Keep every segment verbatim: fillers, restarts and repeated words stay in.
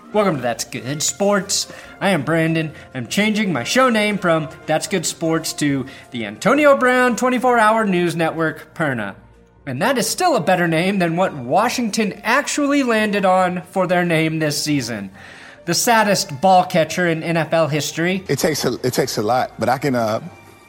Welcome to That's Good Sports. I am Brandon. I'm changing my show name from That's Good Sports to the Antonio Brown twenty-four hour News Network, Perna. And that is still a better name than what Washington actually landed on for their name this season. The saddest ball catcher in N F L history. It takes a, it takes a lot, but I can... Uh...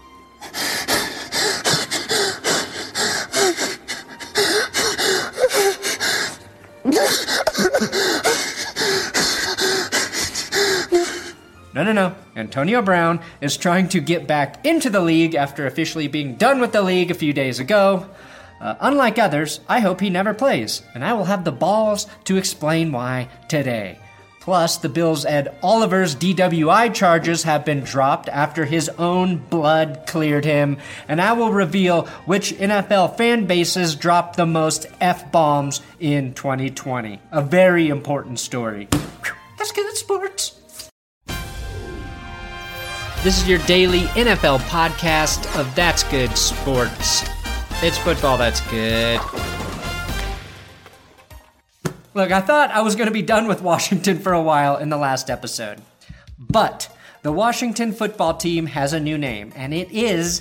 No, no, no. Antonio Brown is trying to get back into the league after officially being done with the league a few days ago. Uh, unlike others, I hope he never plays, and I will have the balls to explain why today. Plus, the Bills' Ed Oliver's D W I charges have been dropped after his own blood cleared him, and I will reveal which N F L fan bases dropped the most F-bombs in twenty twenty. A very important story. That's good sports. This is your daily N F L podcast of That's Good Sports. It's football that's good. Look, I thought I was going to be done with Washington for a while in the last episode. But the Washington football team has a new name, and it is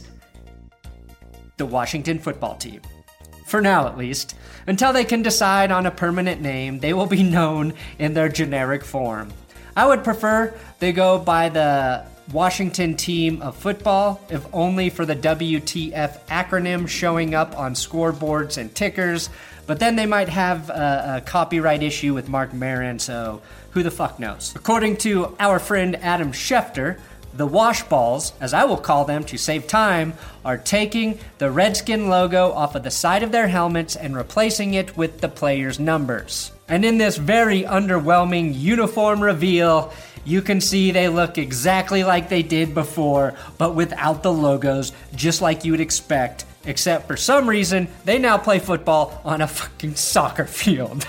the Washington football team. For now, at least. Until they can decide on a permanent name, they will be known in their generic form. I would prefer they go by the Washington Team of Football, if only for the W T F acronym showing up on scoreboards and tickers, but then they might have a, a copyright issue with Mark Maron, so who the fuck knows. According to our friend Adam Schefter, the Washballs, as I will call them to save time, are taking the Redskin logo off of the side of their helmets and replacing it with the players' numbers. And in this very underwhelming uniform reveal, you can see they look exactly like they did before, but without the logos, just like you would expect, except for some reason, they now play football on a fucking soccer field.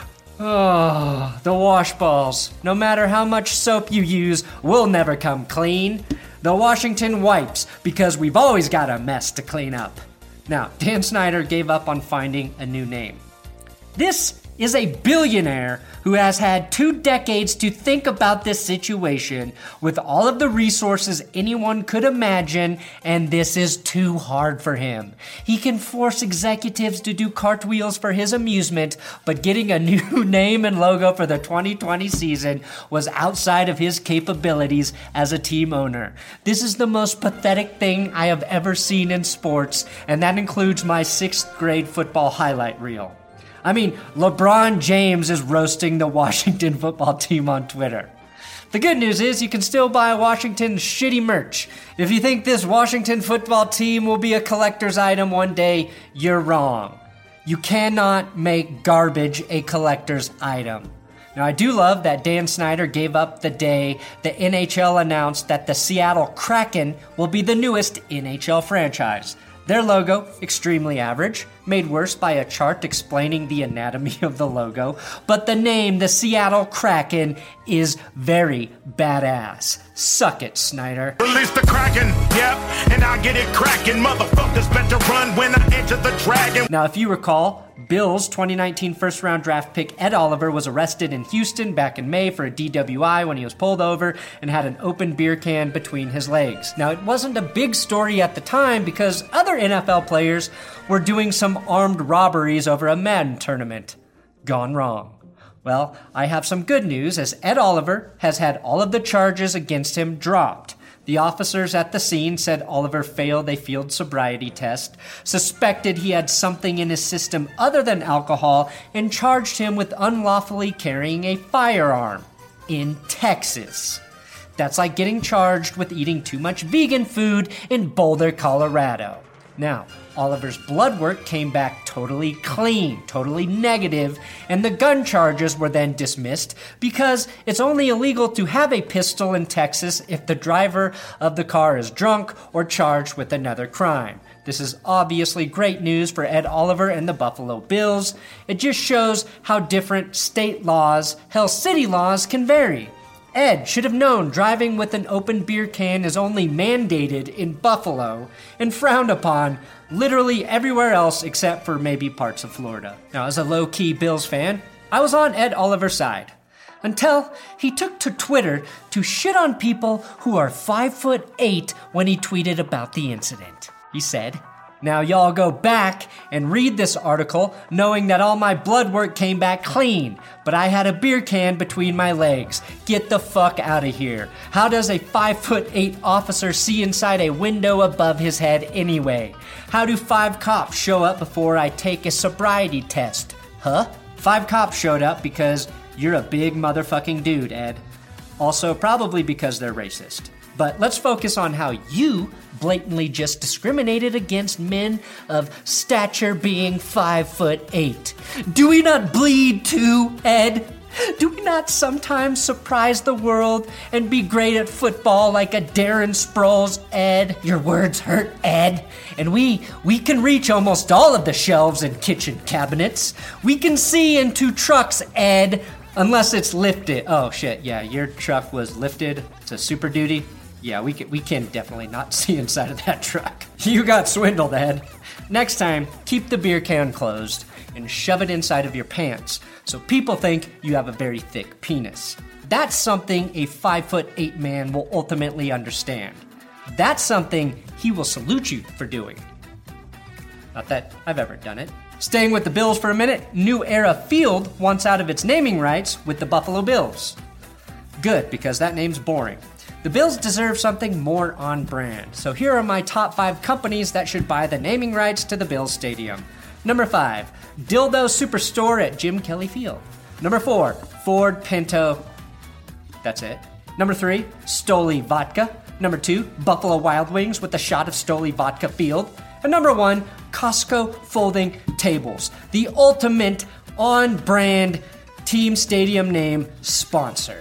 Oh, the Washballs. No matter how much soap you use, will never come clean. The Washington Wipes, because we've always got a mess to clean up. Now, Dan Snyder gave up on finding a new name. This is a billionaire who has had two decades to think about this situation with all of the resources anyone could imagine, and this is too hard for him. He can force executives to do cartwheels for his amusement, but getting a new name and logo for the twenty twenty season was outside of his capabilities as a team owner. This is the most pathetic thing I have ever seen in sports, and that includes my sixth grade football highlight reel. I mean, LeBron James is roasting the Washington football team on Twitter. The good news is you can still buy Washington's shitty merch. If you think this Washington football team will be a collector's item one day, you're wrong. You cannot make garbage a collector's item. Now, I do love that Dan Snyder gave up the day the N H L announced that the Seattle Kraken will be the newest N H L franchise. Their logo, extremely average, made worse by a chart explaining the anatomy of the logo, but the name, the Seattle Kraken, is very badass. Suck it, Snyder. Release the Kraken, yep, and I get it cracking. Motherfuckers better run when I enter the dragon. Now, if you recall, Bills' twenty nineteen first-round draft pick Ed Oliver was arrested in Houston back in May for a D W I when he was pulled over and had an open beer can between his legs. Now, it wasn't a big story at the time because other N F L players were doing some armed robberies over a Madden tournament. Gone wrong. Well, I have some good news as Ed Oliver has had all of the charges against him dropped. The officers at the scene said Oliver failed a field sobriety test, suspected he had something in his system other than alcohol, and charged him with unlawfully carrying a firearm in Texas. That's like getting charged with eating too much vegan food in Boulder, Colorado. Now, Oliver's blood work came back totally clean, totally negative, and the gun charges were then dismissed because it's only illegal to have a pistol in Texas if the driver of the car is drunk or charged with another crime. This is obviously great news for Ed Oliver and the Buffalo Bills. It just shows how different state laws, hell, city laws can vary. Ed should have known driving with an open beer can is only mandated in Buffalo and frowned upon literally everywhere else except for maybe parts of Florida. Now, as a low-key Bills fan, I was on Ed Oliver's side. Until he took to Twitter to shit on people who are five foot eight when he tweeted about the incident. He said, "Now y'all go back and read this article knowing that all my blood work came back clean, but I had a beer can between my legs. Get the fuck out of here. How does a five foot eight officer see inside a window above his head anyway? How do five cops show up before I take a sobriety test? Huh? Five cops showed up because you're a big motherfucking dude, Ed. Also, probably because they're racist. But let's focus on how you blatantly just discriminated against men of stature being five foot eight. Do we not bleed too, Ed? Do we not sometimes surprise the world and be great at football like a Darren Sproles, Ed? Your words hurt, Ed. And we, we can reach almost all of the shelves and kitchen cabinets. We can see into trucks, Ed, unless it's lifted. Oh shit, yeah, your truck was lifted to Super Duty. Yeah, we can, we can definitely not see inside of that truck. You got swindled, Ed. Next time, keep the beer can closed and shove it inside of your pants so people think you have a very thick penis. That's something a five foot eight man will ultimately understand. That's something he will salute you for doing. Not that I've ever done it. Staying with the Bills for a minute, New Era Field wants out of its naming rights with the Buffalo Bills. Good, because that name's boring. The Bills deserve something more on brand, so here are my top five companies that should buy the naming rights to the Bills Stadium. Number five, Dildo Superstore at Jim Kelly Field. Number four, Ford Pinto. That's it. Number three, Stoli Vodka. Number two, Buffalo Wild Wings with a shot of Stoli Vodka Field. And number one, Costco Folding Tables, the ultimate on-brand team stadium name sponsor.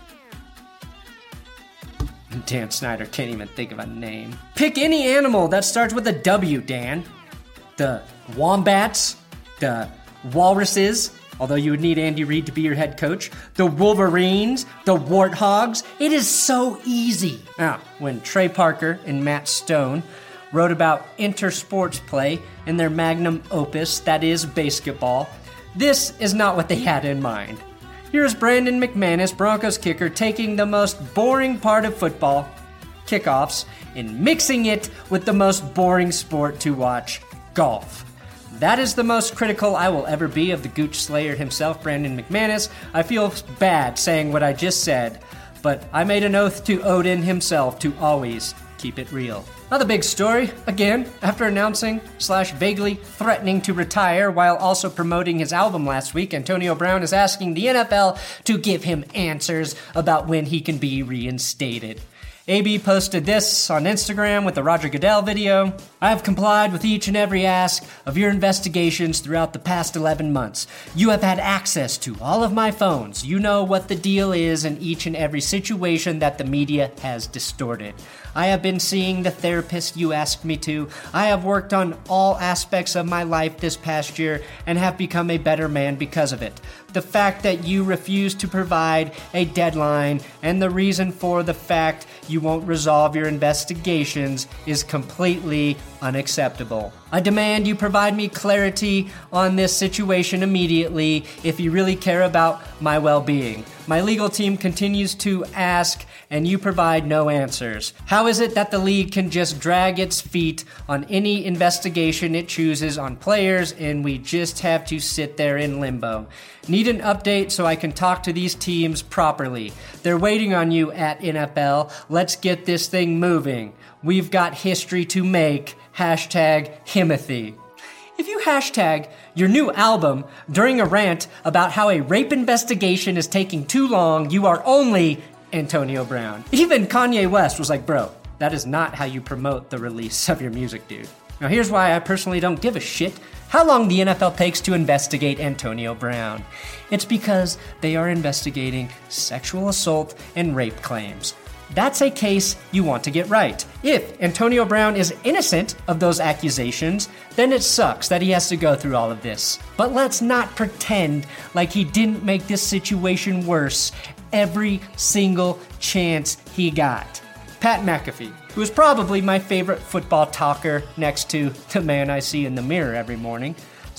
Dan Snyder can't even think of a name. Pick any animal that starts with a W, Dan. The Wombats, the Walruses, although you would need Andy Reid to be your head coach, the Wolverines, the Warthogs. It is so easy. Now, when Trey Parker and Matt Stone wrote about inter-sports play in their magnum opus, that is basketball, this is not what they had in mind. Here's Brandon McManus, Broncos kicker, taking the most boring part of football, kickoffs, and mixing it with the most boring sport to watch, golf. That is the most critical I will ever be of the Gooch Slayer himself, Brandon McManus. I feel bad saying what I just said, but I made an oath to Odin himself to always keep it real. Another big story, again, after announcing slash vaguely threatening to retire while also promoting his album last week, Antonio Brown is asking the N F L to give him answers about when he can be reinstated. A B posted this on Instagram with the Roger Goodell video. I have complied with each and every ask of your investigations throughout the past eleven months. You have had access to all of my phones. You know what the deal is in each and every situation that the media has distorted. I have been seeing the therapist you asked me to. I have worked on all aspects of my life this past year and have become a better man because of it. The fact that you refuse to provide a deadline and the reason for the fact you won't resolve your investigations is completely unacceptable. I demand you provide me clarity on this situation immediately if you really care about my well-being. My legal team continues to ask and you provide no answers. How is it that the league can just drag its feet on any investigation it chooses on players and we just have to sit there in limbo? Need an update so I can talk to these teams properly. They're waiting on you at N F L. Let's get this thing moving. We've got history to make. Hashtag Himothy. If you hashtag your new album during a rant about how a rape investigation is taking too long, you are only Antonio Brown. Even Kanye West was like, bro, that is not how you promote the release of your music, dude. Now here's why I personally don't give a shit how long the N F L takes to investigate Antonio Brown. It's because they are investigating sexual assault and rape claims. That's a case you want to get right. If Antonio Brown is innocent of those accusations, then it sucks that he has to go through all of this. But let's not pretend like he didn't make this situation worse every single chance he got. Pat McAfee, who is probably my favorite football talker next to the man I see in the mirror every morning,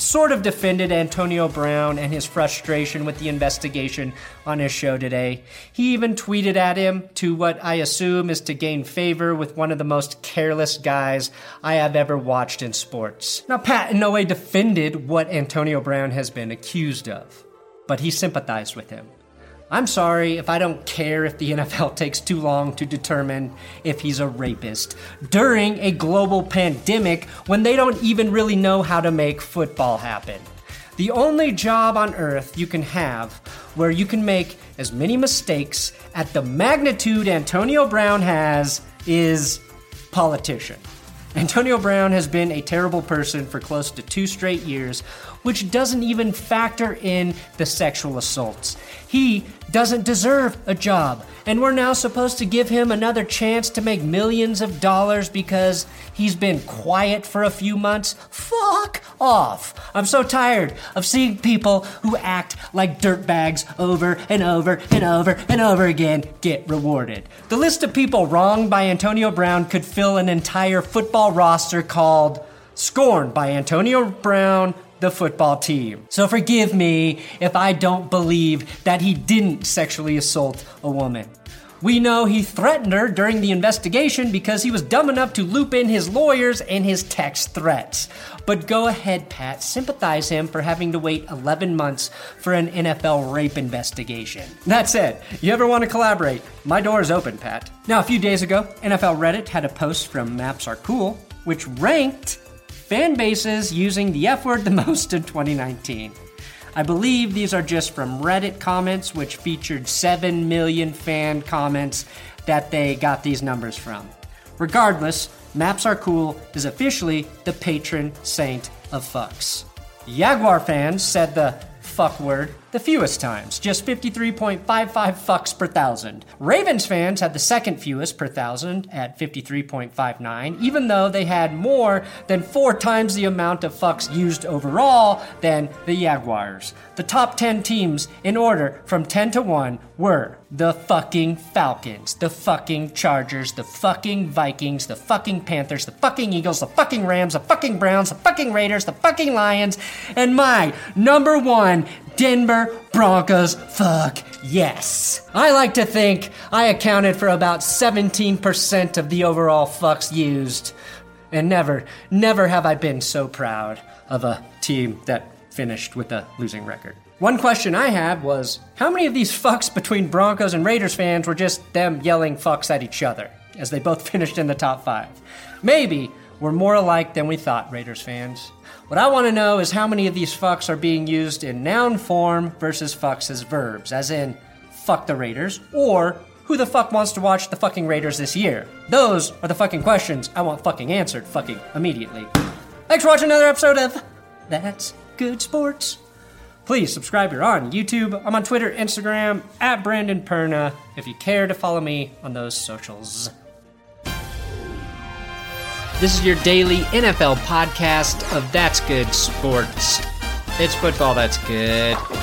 sort of defended Antonio Brown and his frustration with the investigation on his show today. He even tweeted at him to what I assume is to gain favor with one of the most careless guys I have ever watched in sports. Now, Pat in no way defended what Antonio Brown has been accused of, but he sympathized with him. I'm sorry if I don't care if the N F L takes too long to determine if he's a rapist during a global pandemic when they don't even really know how to make football happen. The only job on earth you can have where you can make as many mistakes at the magnitude Antonio Brown has is politician. Antonio Brown has been a terrible person for close to two straight years, which doesn't even factor in the sexual assaults. He doesn't deserve a job, and we're now supposed to give him another chance to make millions of dollars because he's been quiet for a few months? Fuck off. I'm so tired of seeing people who act like dirtbags over and over and over and over again get rewarded. The list of people wronged by Antonio Brown could fill an entire football roster called Scorned by Antonio Brown, the football team. So forgive me if I don't believe that he didn't sexually assault a woman. We know he threatened her during the investigation because he was dumb enough to loop in his lawyers and his text threats. But go ahead, Pat, sympathize him for having to wait eleven months for an N F L rape investigation. That said, you ever want to collaborate? My door is open, Pat. Now, a few days ago, N F L Reddit had a post from Maps Are Cool, which ranked fan bases using the F word the most in twenty nineteen. I believe these are just from Reddit comments, which featured seven million fan comments that they got these numbers from. Regardless, Maps Are Cool is officially the patron saint of fucks. Jaguar fans said the fuck word the fewest times, just fifty-three point five five fucks per thousand. Ravens fans had the second fewest per thousand at fifty-three point five nine, even though they had more than four times the amount of fucks used overall than the Jaguars. The top ten teams in order from ten to one were the fucking Falcons, the fucking Chargers, the fucking Vikings, the fucking Panthers, the fucking Eagles, the fucking Rams, the fucking Browns, the fucking Raiders, the fucking Lions, and my number one, Denver Broncos. Fuck yes. I like to think I accounted for about seventeen percent of the overall fucks used. And never, never have I been so proud of a team that finished with a losing record. One question I had was, how many of these fucks between Broncos and Raiders fans were just them yelling fucks at each other, as they both finished in the top five? Maybe we're more alike than we thought, Raiders fans. What I want to know is how many of these fucks are being used in noun form versus fucks as verbs, as in, fuck the Raiders, or who the fuck wants to watch the fucking Raiders this year? Those are the fucking questions I want fucking answered fucking immediately. Thanks for watching another episode of That's Good Sports. Please subscribe here on YouTube. I'm on Twitter, Instagram, at Brandon Perna, if you care to follow me on those socials. This is your daily N F L podcast of That's Good Sports. It's football that's good.